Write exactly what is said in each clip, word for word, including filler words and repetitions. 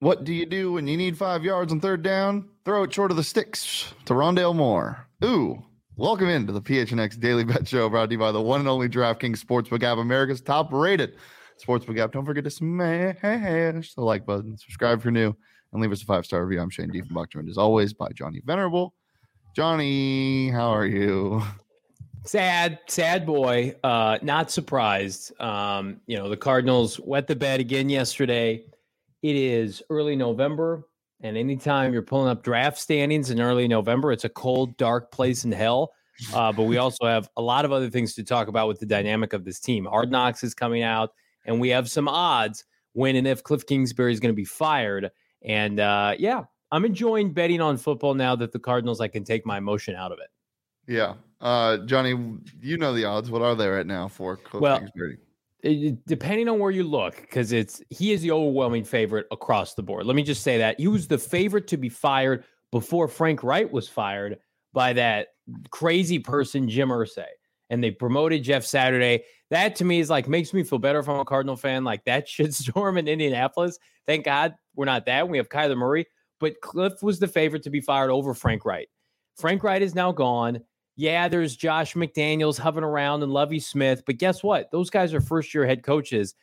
What do you do when you need five yards on third down? Throw it short of the sticks to Rondale Moore. Ooh, welcome into the P H N X Daily Bet Show, brought to you by the one and only DraftKings Sportsbook app, America's top-rated Sportsbook app. Don't forget to smash the like button, subscribe if you're new, and leave us a five-star review. I'm Shane Diefenbach, joined as always by Johnny Venerable. Johnny, how are you? Sad, sad boy. Uh, not surprised. Um, you know, the Cardinals wet the bed again yesterday. It is early November, and anytime you're pulling up draft standings in early November, it's a cold, dark place in hell. Uh, but we also have a lot of other things to talk about with the dynamic of this team. Hard Knocks is coming out, and we have some odds when and if Cliff Kingsbury is going to be fired. And, uh, yeah, I'm enjoying betting on football now that the Cardinals, I can take my emotion out of it. Yeah. Uh, Johnny, you know the odds. What are they right now for Cliff well, Kingsbury? It, depending on where you look, because it's he is the overwhelming favorite across the board. Let me just say that. He was the favorite to be fired before Frank Wright was fired by that crazy person, Jim Irsay. And they promoted Jeff Saturday. That, to me, is like makes me feel better if I'm a Cardinal fan. Like that shitstorm in Indianapolis. Thank God we're not that. We have Kyler Murray. But Cliff was the favorite to be fired over Frank Wright. Frank Wright is now gone. Yeah, there's Josh McDaniels hovering around and Lovie Smith. But guess what? Those guys are first-year head coaches.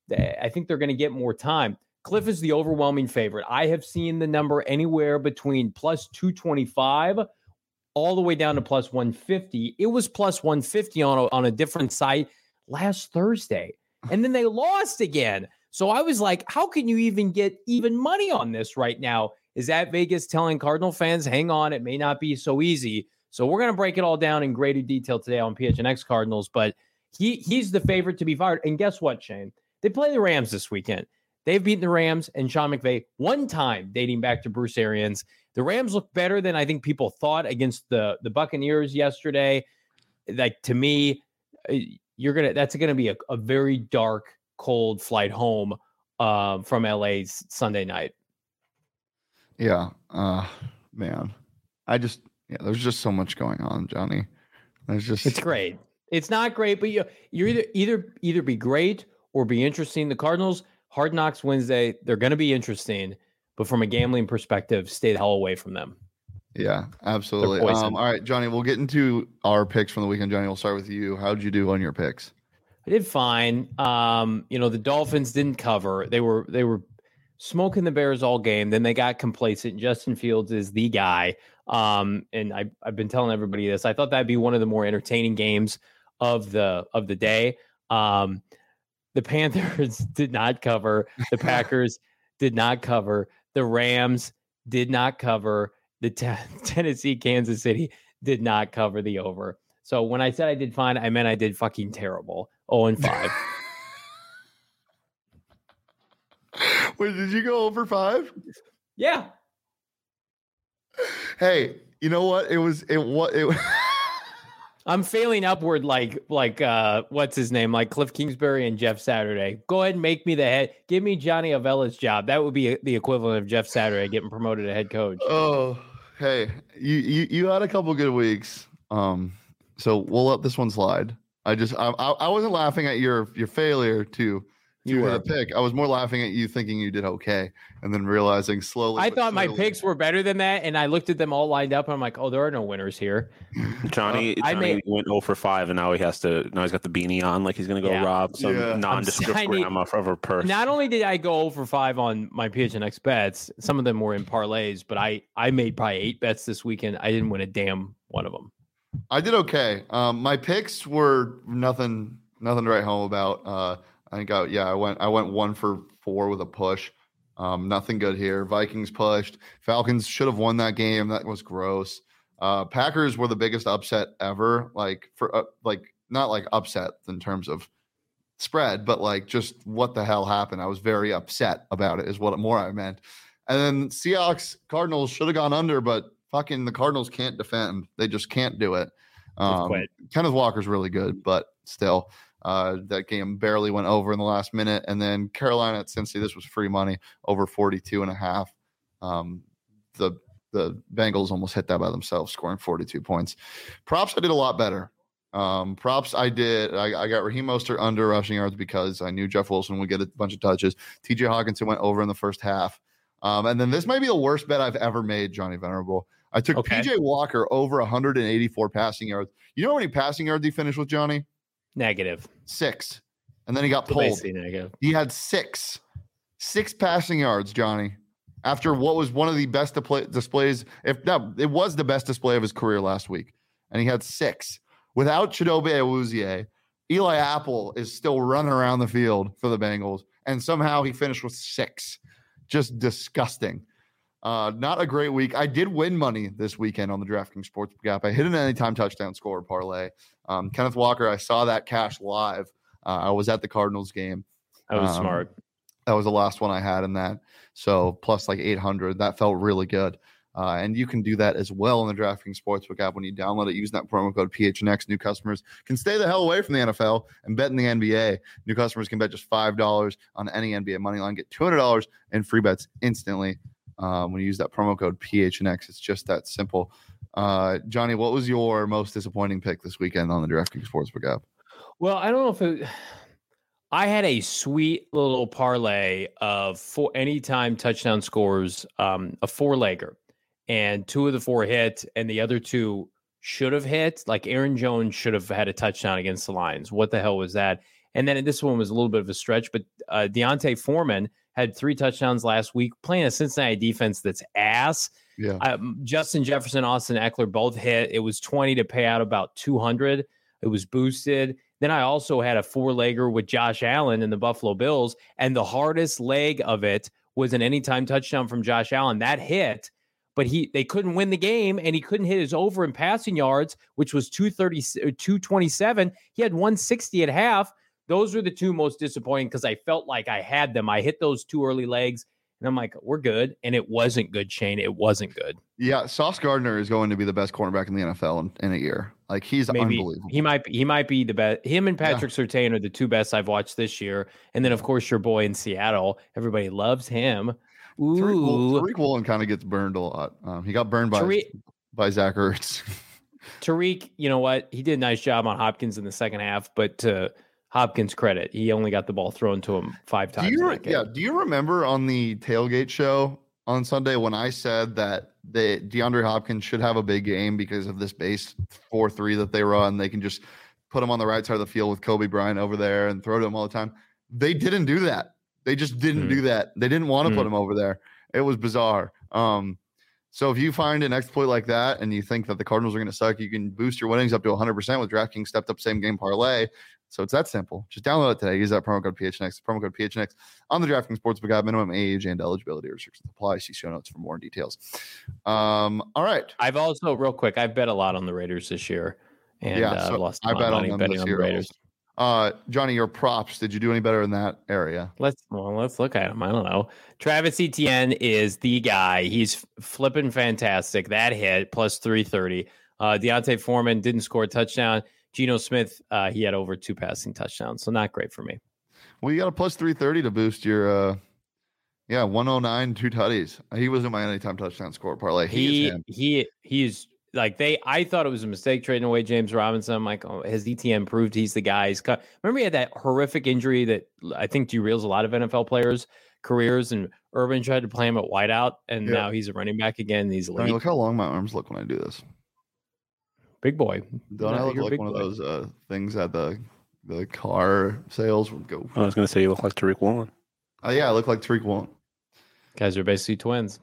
I think they're going to get more time. Cliff is the overwhelming favorite. I have seen the number anywhere between plus two twenty-five all the way down to plus one fifty. It was plus one fifty on a, on a different site last Thursday. And then they lost again. So I was like, how can you even get even money on this right now? Is that Vegas telling Cardinal fans, hang on, it may not be so easy? So we're going to break it all down in greater detail today on P H N X Cardinals, but he he's the favorite to be fired. And guess what, Shane? They play the Rams this weekend. They've beaten the Rams and Sean McVay one time dating back to Bruce Arians. The Rams look better than I think people thought against the, the Buccaneers yesterday. Like, to me, you're gonna that's going to be a, a very dark, cold flight home uh, from L A's Sunday night. Yeah, uh, man. I just... Yeah, there's just so much going on, Johnny. There's just it's great. It's not great, but you you're either either either be great or be interesting. The Cardinals, Hard Knocks Wednesday, they're going to be interesting, but from a gambling perspective, stay the hell away from them. Yeah, absolutely. Um, all right, Johnny, we'll get into our picks from the weekend. Johnny, we'll start with you. How'd you do on your picks? I did fine. Um, you know, the Dolphins didn't cover. They were they were smoking the Bears all game. Then they got complacent. Justin Fields is the guy. Um, and I, I've been telling everybody this. I thought that'd be one of the more entertaining games of the of the day. Um, the Panthers did not cover. The Packers did not cover. The Rams did not cover. The t- Tennessee, Kansas City did not cover the over. So when I said I did fine, I meant I did fucking terrible. oh and five. Wait, did you go over five? Yeah. Hey, you know what? It was it what it. I'm failing upward like like uh what's his name like Cliff Kingsbury and Jeff Saturday. Go ahead and make me the head. Give me Johnny Avella's job. That would be the equivalent of Jeff Saturday getting promoted to head coach. Oh, hey, you you, you had a couple good weeks. Um, so we'll let this one slide. I just I I, I wasn't laughing at your your failure to. You were a pick. I was more laughing at you thinking you did okay, and then realizing slowly. I thought slowly, my picks were better than that, and I looked at them all lined up, and I'm like, "Oh, there are no winners here." Johnny, uh, Johnny made, went zero for five, and now he has to. Now he's got the beanie on, like he's going to go yeah. rob some yeah. nondescript grandma of her purse. Not only did I go zero for five on my P H N X bets, some of them were in parlays, but I I made probably eight bets this weekend. I didn't win a damn one of them. I did okay. Um, my picks were nothing, nothing to write home about. Uh, I think I, yeah, I went I went one for four with a push. Um, nothing good here. Vikings pushed. Falcons should have won that game. That was gross. Uh, Packers were the biggest upset ever. Like for uh, like not like upset in terms of spread, but like just what the hell happened. I was very upset about it. Is what more I meant. And then Seahawks Cardinals should have gone under, but fucking the Cardinals can't defend. They just can't do it. Um, Kenneth Walker's really good, but still. Uh, that game barely went over in the last minute. And then Carolina at Cincy, this was free money, over forty-two and a half. Um, the the Bengals almost hit that by themselves, scoring forty-two points. Props, I did a lot better. Um, props, I did. I, I got Raheem Mostert under rushing yards because I knew Jeff Wilson would get a bunch of touches. T J Hawkinson went over in the first half. Um, and then this might be the worst bet I've ever made, Johnny Venerable. I took okay. P J Walker over one hundred eighty-four passing yards. You know how many passing yards he finished with, Johnny? Negative. Six. And then he got pulled. He had six. Six passing yards, Johnny, after what was one of the best displays. If no, it was the best display of his career last week. And he had six. Without Chidobe Awuzie, Eli Apple is still running around the field for the Bengals. And somehow he finished with six. Just disgusting. Uh, not a great week. I did win money this weekend on the DraftKings Sportsbook app. I hit an anytime touchdown score parlay. Um, Kenneth Walker, I saw that cash live. Uh, I was at the Cardinals game. That was um, smart. That was the last one I had in that. So plus like eight hundred. That felt really good. Uh, and you can do that as well in the DraftKings Sportsbook app when you download it using that promo code P H N X. New customers can stay the hell away from the N F L and bet in the N B A. New customers can bet just five dollars on any N B A money line. Get two hundred dollars in free bets instantly um, when you use that promo code P H N X. It's just that simple. Uh, Johnny, what was your most disappointing pick this weekend on the DraftKings Sportsbook app? Well, I don't know if it, I had a sweet little parlay of four anytime touchdown scores, um, a four-legger. And two of the four hit, and the other two should have hit. Like Aaron Jones should have had a touchdown against the Lions. What the hell was that? And then this one was a little bit of a stretch, but uh, Deontay Foreman had three touchdowns last week playing a Cincinnati defense that's ass. Yeah. Um, Justin Jefferson, Austin Eckler both hit. It was twenty to pay out about two hundred. It was boosted. Then I also had a four-legger with Josh Allen in the Buffalo Bills, and the hardest leg of it was an anytime touchdown from Josh Allen. That hit. But he they couldn't win the game, and he couldn't hit his over in passing yards, which was two thirty, two twenty-seven. He had one sixty at half. Those were the two most disappointing because I felt like I had them. I hit those two early legs, and I'm like, we're good. And it wasn't good, Shane. It wasn't good. Yeah, Sauce Gardner is going to be the best cornerback in the N F L in, in a year. Like, he's Maybe, unbelievable. He might, he might be the best. Him and Patrick yeah. Surtain are the two best I've watched this year. And then, of course, your boy in Seattle. Everybody loves him. Ooh. Tariq, Tariq Woolen kind of gets burned a lot. Um, he got burned by Tariq, by Zach Ertz. Tariq, you know what? He did a nice job on Hopkins in the second half, but to Hopkins' credit, he only got the ball thrown to him five times. Do you, yeah. Do you remember on the tailgate show on Sunday when I said that the DeAndre Hopkins should have a big game because of this base four three that they run? They can just put him on the right side of the field with Kobe Bryant over there and throw to him all the time. They didn't do that. They just didn't mm. do that. They didn't want to mm. put him over there. It was bizarre. Um, so if you find an exploit like that and you think that the Cardinals are going to suck, you can boost your winnings up to one hundred percent with DraftKings stepped up same game parlay. So it's that simple. Just download it today. Use that promo code P H N X. Promo code P H N X on the DraftKings Sportsbook app. Minimum age and eligibility restrictions apply. See show notes for more details. Um, all right. I've also, real quick, I've bet a lot on the Raiders this year. And yeah, so uh, lost I bet on them betting this on year. the Raiders. Uh, Johnny, your props. Did you do any better in that area? Let's well, let's look at him. I don't know. Travis Etienne is the guy. He's flipping fantastic. That hit plus three thirty. Uh, Deontay Foreman didn't score a touchdown. Geno Smith, uh, he had over two passing touchdowns, so not great for me. Well, you got a plus three thirty to boost your, uh, yeah, one oh nine, two tutties. He wasn't my anytime touchdown score parlay. He he he he's. Like they, I thought it was a mistake trading away James Robinson. I'm like, oh, has E T N proved he's the guy? He's cut. Remember he had that horrific injury that I think derails a lot of N F L players' careers, and Urban tried to play him at wideout, and yeah. now he's a running back again. He's elite. I mean, look how long my arms look when I do this. Big boy. Don't I look like one boy. of those uh, things at the the car sales would go? I was going to say you look like Tariq Woolen. Oh uh, yeah, I look like Tariq Woolen. Guys are basically twins.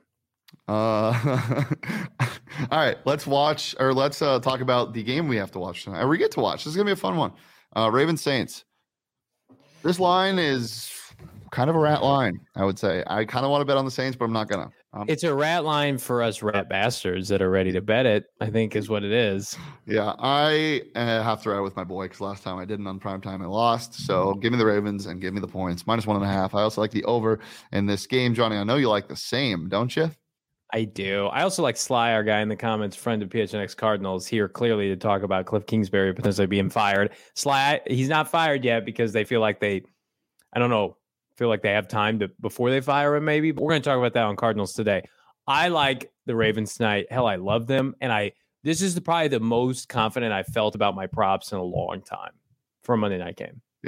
Uh, all right, let's watch or let's uh, talk about the game we have to watch tonight. Or we get to watch. This is gonna be a fun one. Uh, Ravens Saints. This line is kind of a rat line, I would say. I kind of want to bet on the Saints, but I'm not gonna. Um, it's a rat line for us rat bastards that are ready to bet it, I think is what it is. Yeah, I uh, have to ride with my boy because last time I didn't on primetime, I lost. So give me the Ravens and give me the points. Minus one and a half. I also like the over in this game. Johnny, I know you like the same, don't you? I do. I also like Sly, our guy in the comments, friend of P H N X Cardinals, here clearly to talk about Cliff Kingsbury potentially being fired. Sly, he's not fired yet because they feel like they, I don't know, feel like they have time to before they fire him maybe. But we're going to talk about that on Cardinals today. I like the Ravens tonight. Hell, I love them. And I this is the, probably the most confident I felt about my props in a long time for a Monday night game. Yeah.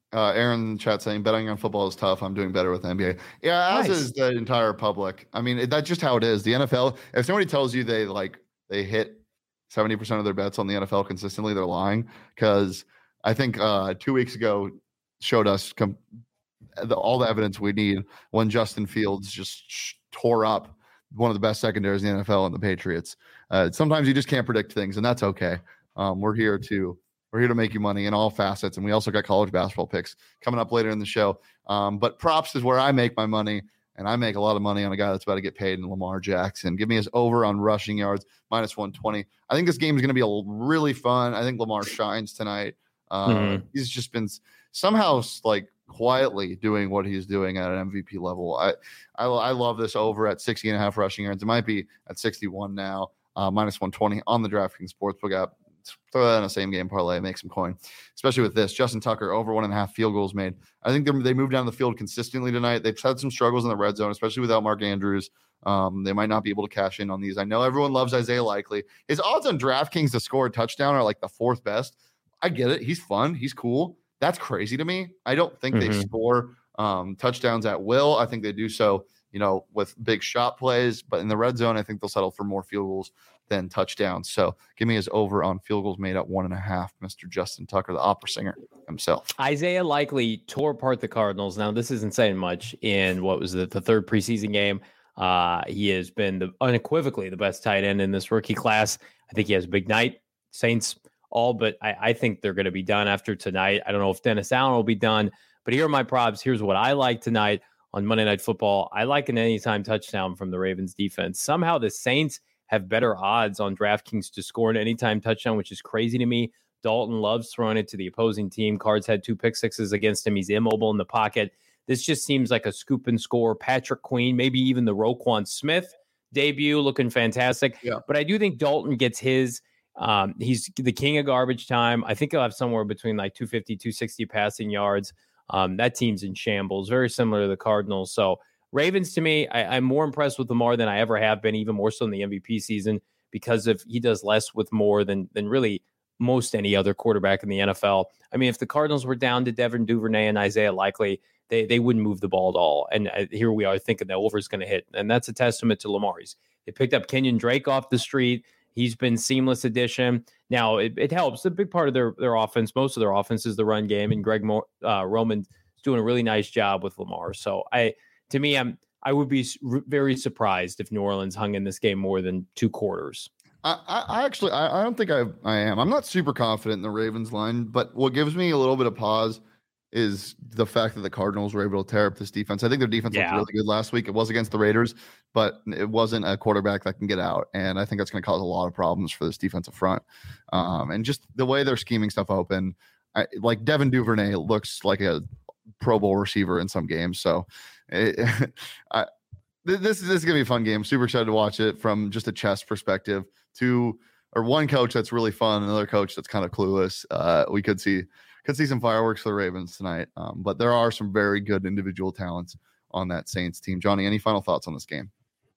Uh, Aaron in the chat saying betting on football is tough. I'm doing better with N B A. Yeah, as nice. Is the entire public. I mean, that's just how it is. The N F L. If somebody tells you they like they hit seventy percent of their bets on the N F L consistently, they're lying. Because I think uh, two weeks ago showed us com- the, all the evidence we need when Justin Fields just sh- tore up one of the best secondaries in the N F L and the Patriots. Uh, sometimes you just can't predict things, and that's okay. Um, we're here to. We're here to make you money in all facets, and we also got college basketball picks coming up later in the show. Um, but props is where I make my money, and I make a lot of money on a guy that's about to get paid in Lamar Jackson. Give me his over on rushing yards, minus one twenty. I think this game is going to be a really fun. I think Lamar shines tonight. Uh, mm-hmm. He's just been somehow like quietly doing what he's doing at an M V P level. I, I, I love this over at sixty and a half rushing yards. It might be at sixty-one now, uh, minus one twenty on the DraftKings Sportsbook app. Throw that in a same game parlay, make some coin, especially with this. Justin Tucker over one and a half field goals made. I think they moved down the field consistently tonight. They've had some struggles in the red zone, especially without Mark Andrews. Um, they might not be able to cash in on these. I know everyone loves Isaiah Likely. His odds on DraftKings to score a touchdown are like the fourth best. I get it. He's fun. He's cool. That's crazy to me. I don't think mm-hmm. they score um, touchdowns at will. I think they do so, you know, with big shot plays. But in the red zone, I think they'll settle for more field goals than touchdowns. So give me his over on field goals made at one and a half, Mister Justin Tucker, the opera singer himself. Isaiah Likely tore apart the Cardinals. Now, this isn't saying much in what was the, the third preseason game. Uh, he has been the, unequivocally the best tight end in this rookie class. I think he has a big night. Saints all, but I, I think they're going to be done after tonight. I don't know if Dennis Allen will be done, but here are my props. Here's what I like tonight on Monday Night Football. I like an anytime touchdown from the Ravens defense. Somehow the Saints have better odds on DraftKings to score an anytime touchdown, which is crazy to me. Dalton loves throwing it to the opposing team. Cards had two pick sixes against him. He's immobile in the pocket. This just seems like a scoop and score. Patrick Queen, maybe even the Roquan Smith debut, looking fantastic. Yeah. But I do think Dalton gets his. Um, he's the king of garbage time. I think he'll have somewhere between like two fifty, two sixty passing yards. Um, that team's in shambles, very similar to the Cardinals. So Ravens, to me, I, I'm more impressed with Lamar than I ever have been, even more so in the M V P season, because of he does less with more than than really most any other quarterback in the N F L. I mean, if the Cardinals were down to Devin Duvernay and Isaiah Likely, they they wouldn't move the ball at all. And uh, here we are thinking the over is going to hit, and that's a testament to Lamar. He's, they picked up Kenyon Drake off the street. He's been seamless addition. Now it, it helps. A big part of their their offense, most of their offense, is the run game, and Greg Mo- uh, Roman's doing a really nice job with Lamar. So I. To me, I'm I would be very surprised if New Orleans hung in this game more than two quarters. I, I actually I, I don't think I I am. I'm not super confident in the Ravens line, but what gives me a little bit of pause is the fact that the Cardinals were able to tear up this defense. I think their defense yeah. looked really good last week. It was against the Raiders, but it wasn't a quarterback that can get out, and I think that's going to cause a lot of problems for this defensive front. Um, and just the way they're scheming stuff open, I, like Devin Duvernay looks like a Pro Bowl receiver in some games, so. It, I, this, this is going to be a fun game. Super excited to watch it from just a chess perspective. Two or one coach that's really fun, another coach that's kind of clueless. Uh, we could see could see some fireworks for the Ravens tonight, um, but there are some very good individual talents on that Saints team. Johnny, any final thoughts on this game?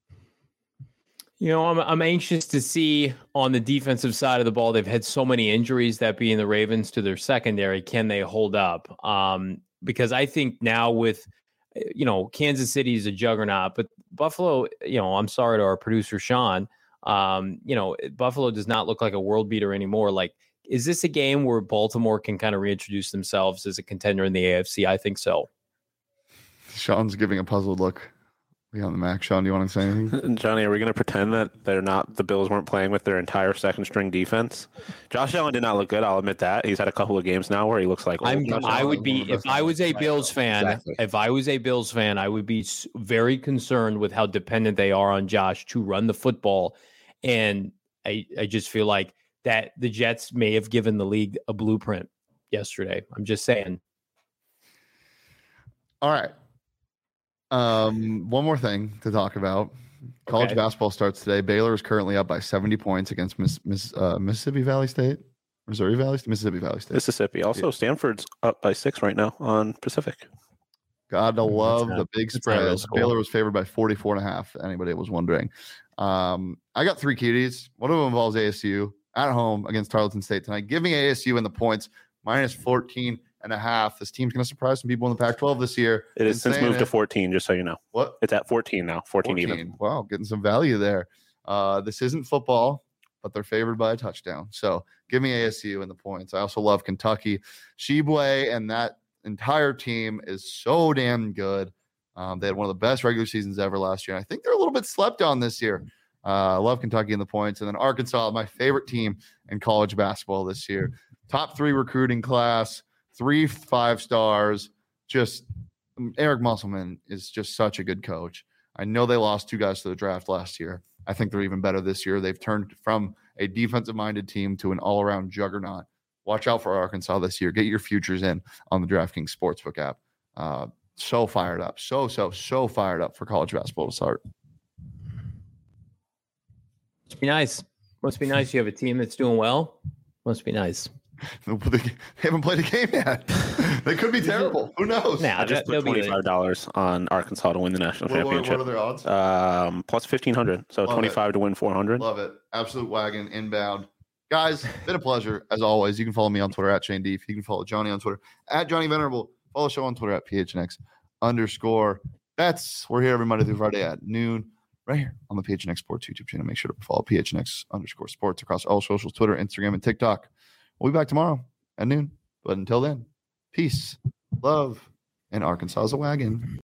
You know, I'm I'm anxious to see on the defensive side of the ball. They've had so many injuries, that being the Ravens, to their secondary. Can they hold up? Um, because I think now with you know, Kansas City is a juggernaut, but Buffalo, you know, I'm sorry to our producer, Sean, um, you know, Buffalo does not look like a world beater anymore. Like, is this a game where Baltimore can kind of reintroduce themselves as a contender in the A F C? I think so. Sean's giving a puzzled look beyond the Mac. Sean, do you want to say anything? Johnny, are we going to pretend that they're not, the Bills weren't playing with their entire second string defense? Josh Allen did not look good. I'll admit that. He's had a couple of games now where he looks like, I'm, I would be, if I was a Bills fan, exactly. if I was a Bills fan, I would be very concerned with how dependent they are on Josh to run the football. And I, I just feel like that the Jets may have given the league a blueprint yesterday. I'm just saying. All right. Um, one more thing to talk about. College okay. basketball starts today. Baylor is currently up by seventy points against Miss, Miss, uh, Mississippi Valley State. Missouri Valley State? Mississippi Valley State. Mississippi. Also, yeah. Stanford's up by six right now on Pacific. Gotta love not, the big spread. Baylor was favored by forty-four and a half. Anybody was wondering. Um, I got three cuties. One of them involves A S U at home against Tarleton State tonight. Give me A S U in the points, minus fourteen and a half. This team's going to surprise some people in the Pac twelve this year. It is since moved it. to fourteen, just so you know. What? It's at fourteen now, fourteen, fourteen even. Wow, getting some value there. Uh, this isn't football, but they're favored by a touchdown. So give me A S U in the points. I also love Kentucky. Tshiebwe and that entire team is so damn good. Um, they had one of the best regular seasons ever last year. And I think they're a little bit slept on this year. Uh, I love Kentucky in the points. And then Arkansas, my favorite team in college basketball this year. Top three recruiting class, three five stars. Just Eric Musselman is just such a good coach. I know they lost two guys to the draft last year. I think they're even better this year. They've turned from a defensive-minded team to an all-around juggernaut. Watch out for Arkansas this year. Get your futures in on the DraftKings Sportsbook app. Uh, so fired up. So, so, so fired up for college basketball to start. Must be nice. Must be nice. You have a team that's doing well. Must be nice. They haven't played a game yet. They could be terrible. Who knows? Nah, I just put twenty-five dollars on Arkansas to win the national what, championship. What are their odds? Um, plus fifteen hundred. So Love twenty-five it. To win four hundred. Love it. Absolute wagon inbound. Guys, been a pleasure as always. You can follow me on Twitter at Shane Deef. You can follow Johnny on Twitter at Johnny Venerable. Follow the show on Twitter at P H N X underscore bets. We're here every Monday through Friday at noon. Right here on the P H N X Sports YouTube channel. Make sure to follow P H N X underscore sports across all socials, Twitter, Instagram, and TikTok. We'll be back tomorrow at noon. But until then, peace, love, and Arkansas is a wagon.